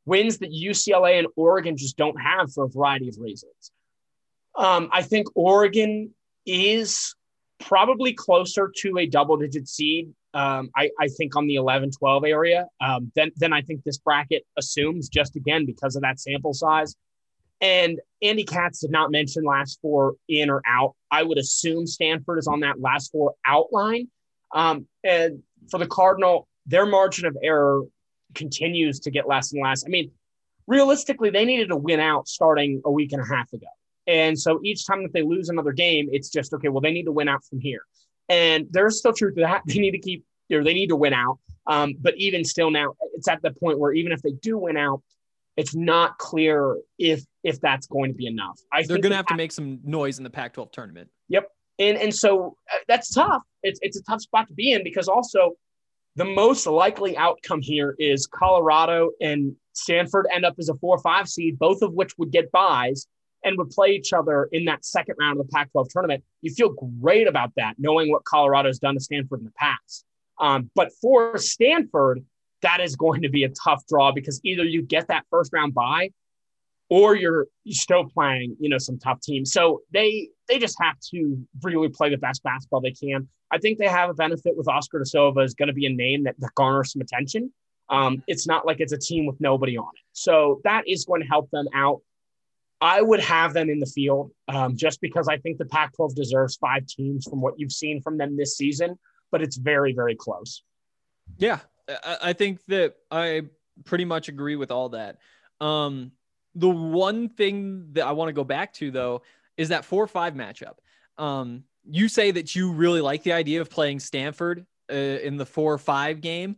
wins that U C L A and Oregon just don't have for a variety of reasons. Um, I think Oregon is probably closer to a double-digit seed, um, I, I think, on the eleven twelve area um, than, than I think this bracket assumes, just again because of that sample size. And Andy Katz did not mention last four in or out. I would assume Stanford is on that last four outline. Um, and for the Cardinal, their margin of error continues to get less and less. I mean, realistically, they needed to win out starting a week and a half ago. And so each time that they lose another game, it's just, okay, well, they need to win out from here. And there's still truth to that. They need to keep, or they need to win out. Um, but even still now, it's at the point where even if they do win out, it's not clear if if that's going to be enough. I They're going to have to make some noise in the Pac twelve tournament. Yep. And and so uh, that's tough. It's it's a tough spot to be in because also the most likely outcome here is Colorado and Stanford end up as a four or five seed, both of which would get buys and would play each other in that second round of the Pac twelve tournament. You feel great about that, knowing what Colorado's done to Stanford in the past. Um, but for Stanford, that is going to be a tough draw because either you get that first round bye or you're, you're still playing, you know, some tough teams. So they they just have to really play the best basketball they can. I think they have a benefit with Oscar Da Silva is going to be a name that, that garners some attention. Um, it's not like it's a team with nobody on it. So that is going to help them out. I would have them in the field um, just because I think the Pac twelve deserves five teams from what you've seen from them this season, but it's very, very close. Yeah, I think that I pretty much agree with all that. Um, the one thing that I want to go back to, though, is that four five matchup. Um, you say that you really like the idea of playing Stanford uh, in the four five game.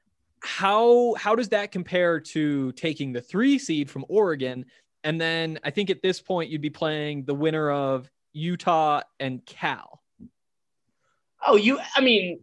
How, how does that compare to taking the three seed from Oregon? And then I think at this point you'd be playing the winner of Utah and Cal. Oh, you, I mean,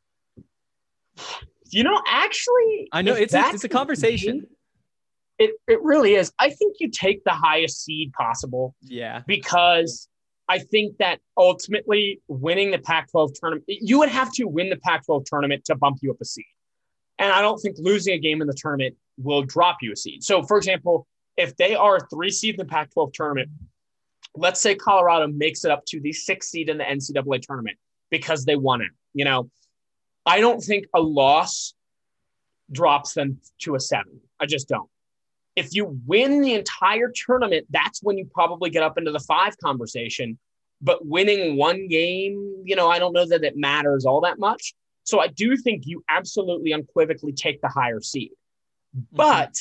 you know, actually, I know it's a, it's a conversation. It it really is. I think you take the highest seed possible. Yeah. Because I think that ultimately winning the Pac twelve tournament, you would have to win the Pac twelve tournament to bump you up a seed. And I don't think losing a game in the tournament will drop you a seed. So, for example, if they are a three seed in the Pac twelve tournament, let's say Colorado makes it up to the sixth seed in the N C double A tournament because they won it. You know, I don't think a loss drops them to a seven. I just don't. If you win the entire tournament, that's when you probably get up into the five conversation. But winning one game, you know, I don't know that it matters all that much. So I do think you absolutely unequivocally take the higher seed. Mm-hmm. But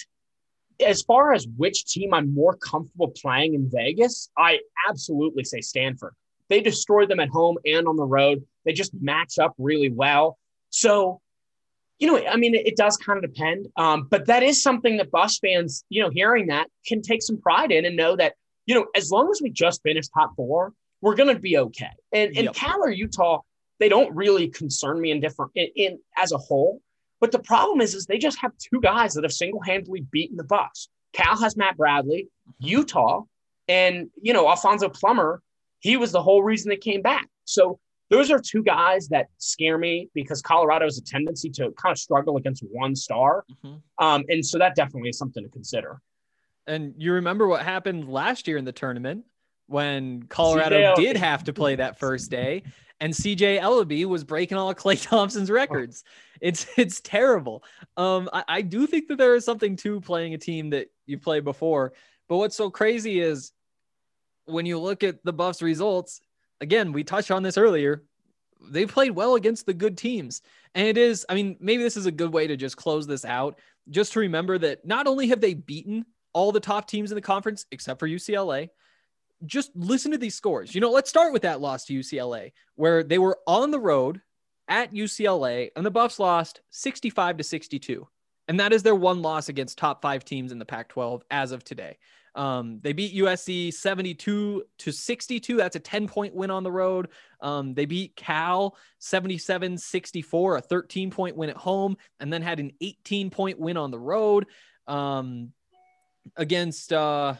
as far as which team I'm more comfortable playing in Vegas, I absolutely say Stanford. They destroy them at home and on the road. They just match up really well. So, you know, I mean, it, it does kind of depend. Um, but that is something that Buffs fans, you know, hearing that can take some pride in and know that, you know, as long as we just finish top four, we're going to be okay. And, and yep. Cal or Utah, they don't really concern me in different in, in as a whole. But the problem is, is they just have two guys that have single-handedly beaten the Buffs. Cal has Matt Bradley, Utah, and, you know, Alfonso Plummer, he was the whole reason they came back. So those are two guys that scare me because Colorado has a tendency to kind of struggle against one star. Mm-hmm. Um, and so that definitely is something to consider. And you remember what happened last year in the tournament when Colorado did have to play that first day and C J Ellaby was breaking all of Klay Thompson's records. It's, it's terrible. Um, I, I do think that there is something to playing a team that you played before, but what's so crazy is when you look at the Buffs results, again, we touched on this earlier, they played well against the good teams. And it is, I mean, maybe this is a good way to just close this out, just to remember that not only have they beaten all the top teams in the conference, except for U C L A, just listen to these scores. You know, let's start with that loss to U C L A, where they were on the road at U C L A and the Buffs lost sixty-five to sixty-two. And that is their one loss against top five teams in the Pac twelve as of today. Um, they beat U S C seventy-two to sixty-two. That's a ten point win on the road. Um, they beat Cal seventy-seven sixty-four, a thirteen point win at home, and then had an eighteen point win on the road. Um, against, uh,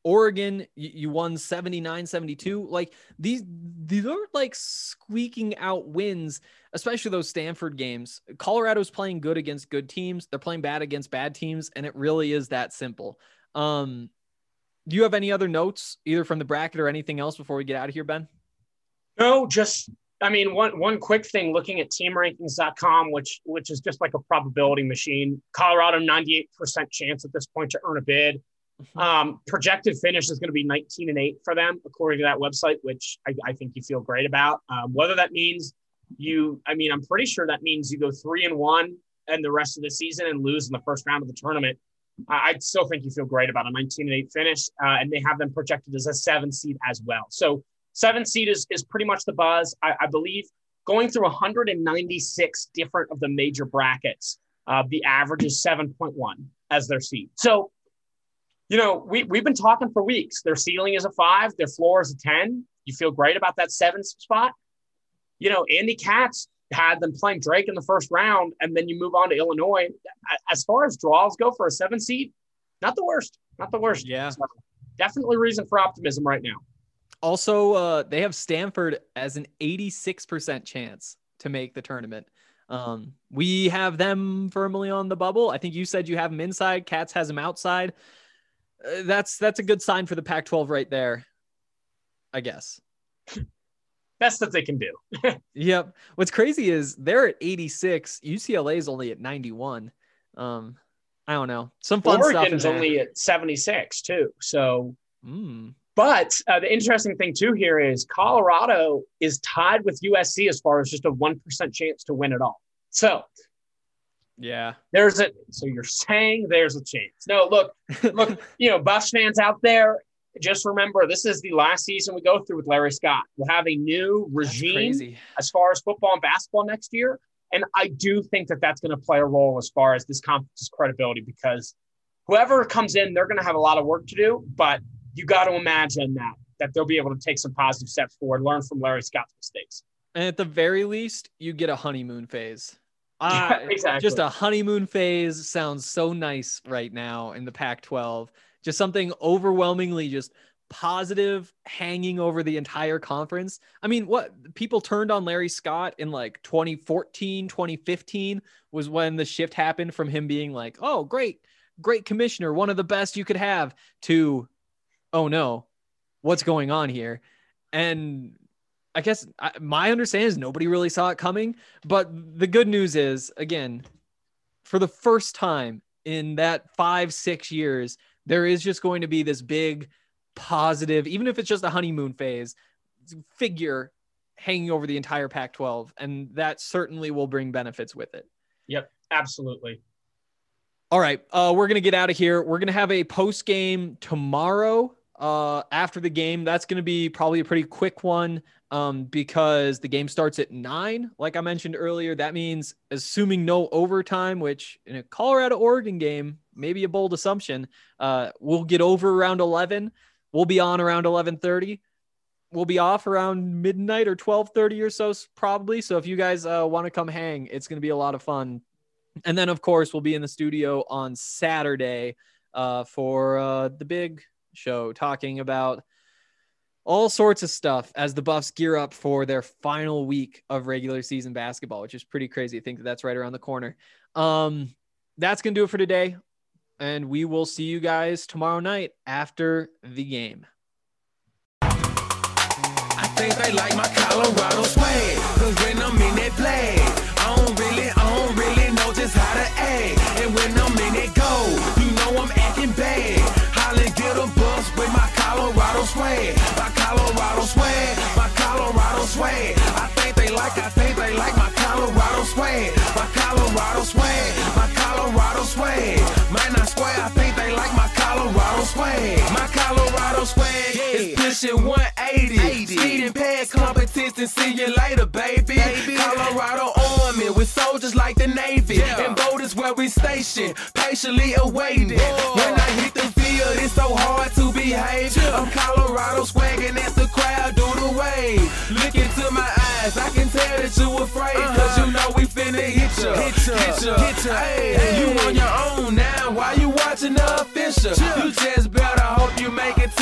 Oregon, you, you won seventy-nine seventy-two. Like these, these are like squeaking out wins, especially those Stanford games. Colorado's playing good against good teams. They're playing bad against bad teams. And it really is that simple. Um, do you have any other notes either from the bracket or anything else before we get out of here, Ben? No, just, I mean, one, one quick thing, looking at team rankings dot com, which, which is just like a probability machine. Colorado, ninety-eight percent chance at this point to earn a bid. Um, projected finish is going to be nineteen and eight for them, according to that website, which I, I think you feel great about. Um, whether that means you, I mean, I'm pretty sure that means you go three and one and the rest of the season and lose in the first round of the tournament. I, I still think you feel great about a nineteen and eight finish. Uh, and they have them projected as a seven seed as well. So seven seed is, is pretty much the buzz. I, I believe going through one hundred ninety-six different of the major brackets, uh, the average is seven point one as their seed. So, you know, we, we've been talking for weeks. Their ceiling is a five. Their floor is a ten. You feel great about that seven spot. You know, Andy Katz had them playing Drake in the first round, and then you move on to Illinois. As far as draws go for a seven seed, not the worst. Not the worst. Yeah. So definitely reason for optimism right now. Also, uh, they have Stanford as an eighty-six percent chance to make the tournament. Um, we have them firmly on the bubble. I think you said you have them inside. Katz has them outside. Uh, that's that's a good sign for the Pac twelve right there, I guess. Best that they can do. Yep. What's crazy is they're at eighty-six. U C L A is only at ninety-one. Um, I don't know. Some fun stuff. Oregon's only at seventy-six too. So, mm. But uh, the interesting thing too here is Colorado is tied with U S C as far as just a one percent chance to win it all. So. Yeah, there's a, so you're saying there's a chance. No, look, look, you know, Buffs fans out there, just remember, this is the last season we go through with Larry Scott. We'll have a new regime as far as football and basketball next year. And I do think that that's going to play a role as far as this conference's credibility, because whoever comes in, they're going to have a lot of work to do, but you got to imagine that, that they'll be able to take some positive steps forward, learn from Larry Scott's mistakes. And at the very least, you get a honeymoon phase. Uh, yeah, exactly. Just a honeymoon phase sounds so nice right now in the Pac twelve. Just something overwhelmingly just positive hanging over the entire conference. I mean, what people turned on Larry Scott in like twenty fourteen, twenty fifteen was when the shift happened from him being like, oh, great, great commissioner, one of the best you could have, to, oh no, what's going on here? And I guess I, my understanding is nobody really saw it coming, but the good news is, again, for the first time in that five, six years, there is just going to be this big positive, even if it's just a honeymoon phase, figure hanging over the entire Pac twelve. And that certainly will bring benefits with it. Yep, absolutely. All right. Uh, we're going to get out of here. We're going to have a post game tomorrow uh, after the game. That's going to be probably a pretty quick one. Um, because the game starts at nine, like I mentioned earlier. That means assuming no overtime, which in a Colorado Oregon game, maybe a bold assumption, uh, we'll get over around eleven. We'll be on around eleven thirty. We'll be off around midnight or twelve thirty or so, probably. So if you guys uh, want to come hang, it's going to be a lot of fun. And then, of course, we'll be in the studio on Saturday uh, for uh, the big show, talking about all sorts of stuff as the Buffs gear up for their final week of regular season basketball, which is pretty crazy to think that that's right around the corner. Um, that's going to do it for today. And we will see you guys tomorrow night after the game. I think they like my Colorado swag, cause when I'm in that play, I don't really, I don't really know just how to act. And when I'm in that go, you know I'm acting bad. Holly get a bus with my Colorado swag, my Colorado swag, my Colorado swag. I think they like, I think they like my Colorado swag, my Colorado swag, my Colorado swag. Man, I swear, I think they like my Colorado swag, my Colorado swag is pushing one eighty, speeding past competition. See you later, baby. baby. Colorado Army with soldiers like the Navy, yeah. And voters where we stationed, patiently awaiting. Whoa. When I hit the field, it's so hard to behave. Yeah. I'm Colorado swagging as the crowd do the wave. Look into my eyes, I can tell that you afraid, uh-huh. Cause you know we finna hit ya, hit ya, hit ya, hit ya. Hey, hey. You on your own now, why you watching the official? Yeah. You just better hope you make it to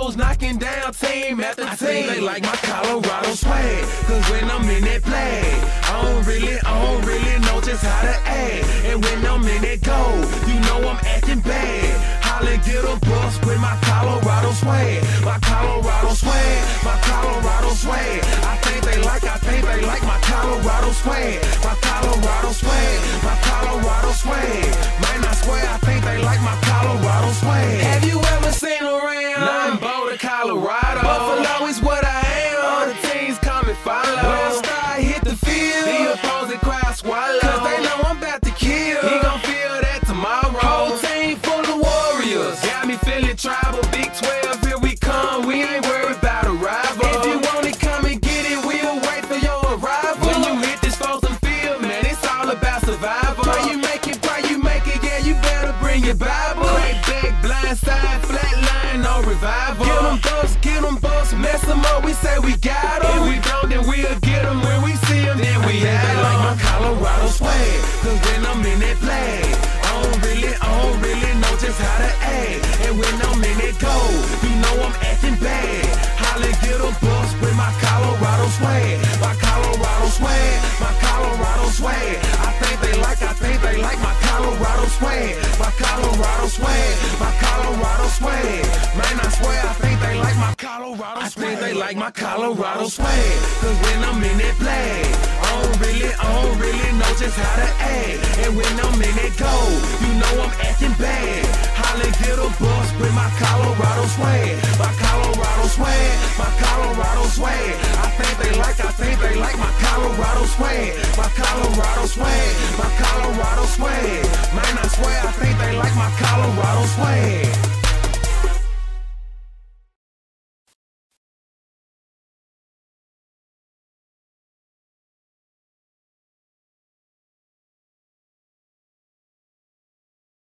hoes knocking down team after team. I think they like my Colorado swag, cause when I'm in that play, I don't really, I don't really know just how to act. And when I'm in that goal, you know I'm acting bad. Holla, get a bus with my Colorado swag, my Colorado swag, my Colorado swag. I think they like, I think they like my Colorado swag, my Colorado swag, my Colorado swag. Man, I swear, I think they like my Colorado swag. Have you ever seen around? Nah, I'm Boulder, Colorado. Buffalo is what I am. All the teams come and follow. When I start hit the field, the opposing crowd swallow. Cause they know I'm about to kill. He gon' feel that tomorrow. Whole team full of warriors. Got me feeling tribal. Big twelve, here we come. We ain't worried about a rival. If you want it, come and get it. We'll wait for your arrival. When you hit this Folsom field, man, it's all about survival. Pray you make it, pray you make it. Yeah, you better bring your Bible. Crack back, blind side, flat line, no revival. Get them bucks, get them bucks, mess them up. We say we got them. If we don't, then we'll get them. When we see them, then we out. They like my Colorado swag, cause when I'm in that flag, I don't really, I don't really know just how to act. And when I'm in that goal, you know I'm acting bad. Holla, get a bus with my Colorado swag, my Colorado swag, my Colorado swag. I think they like, I think they like my Colorado swag, my Colorado swag, my Colorado swag. Man, I swear, I think they like my Colorado swag. I think they like my Colorado swag, cause when I'm in that flag, I don't really, I don't really know just how to act. And when I'm in that goal, you know I'm acting bad. Holla, get a bus with my Colorado swag, my Colorado swag, my Colorado swag. I think they like, I think they like my Colorado swag, my Colorado swag, my Colorado swag. Man, I swear, I think they like my Colorado swag.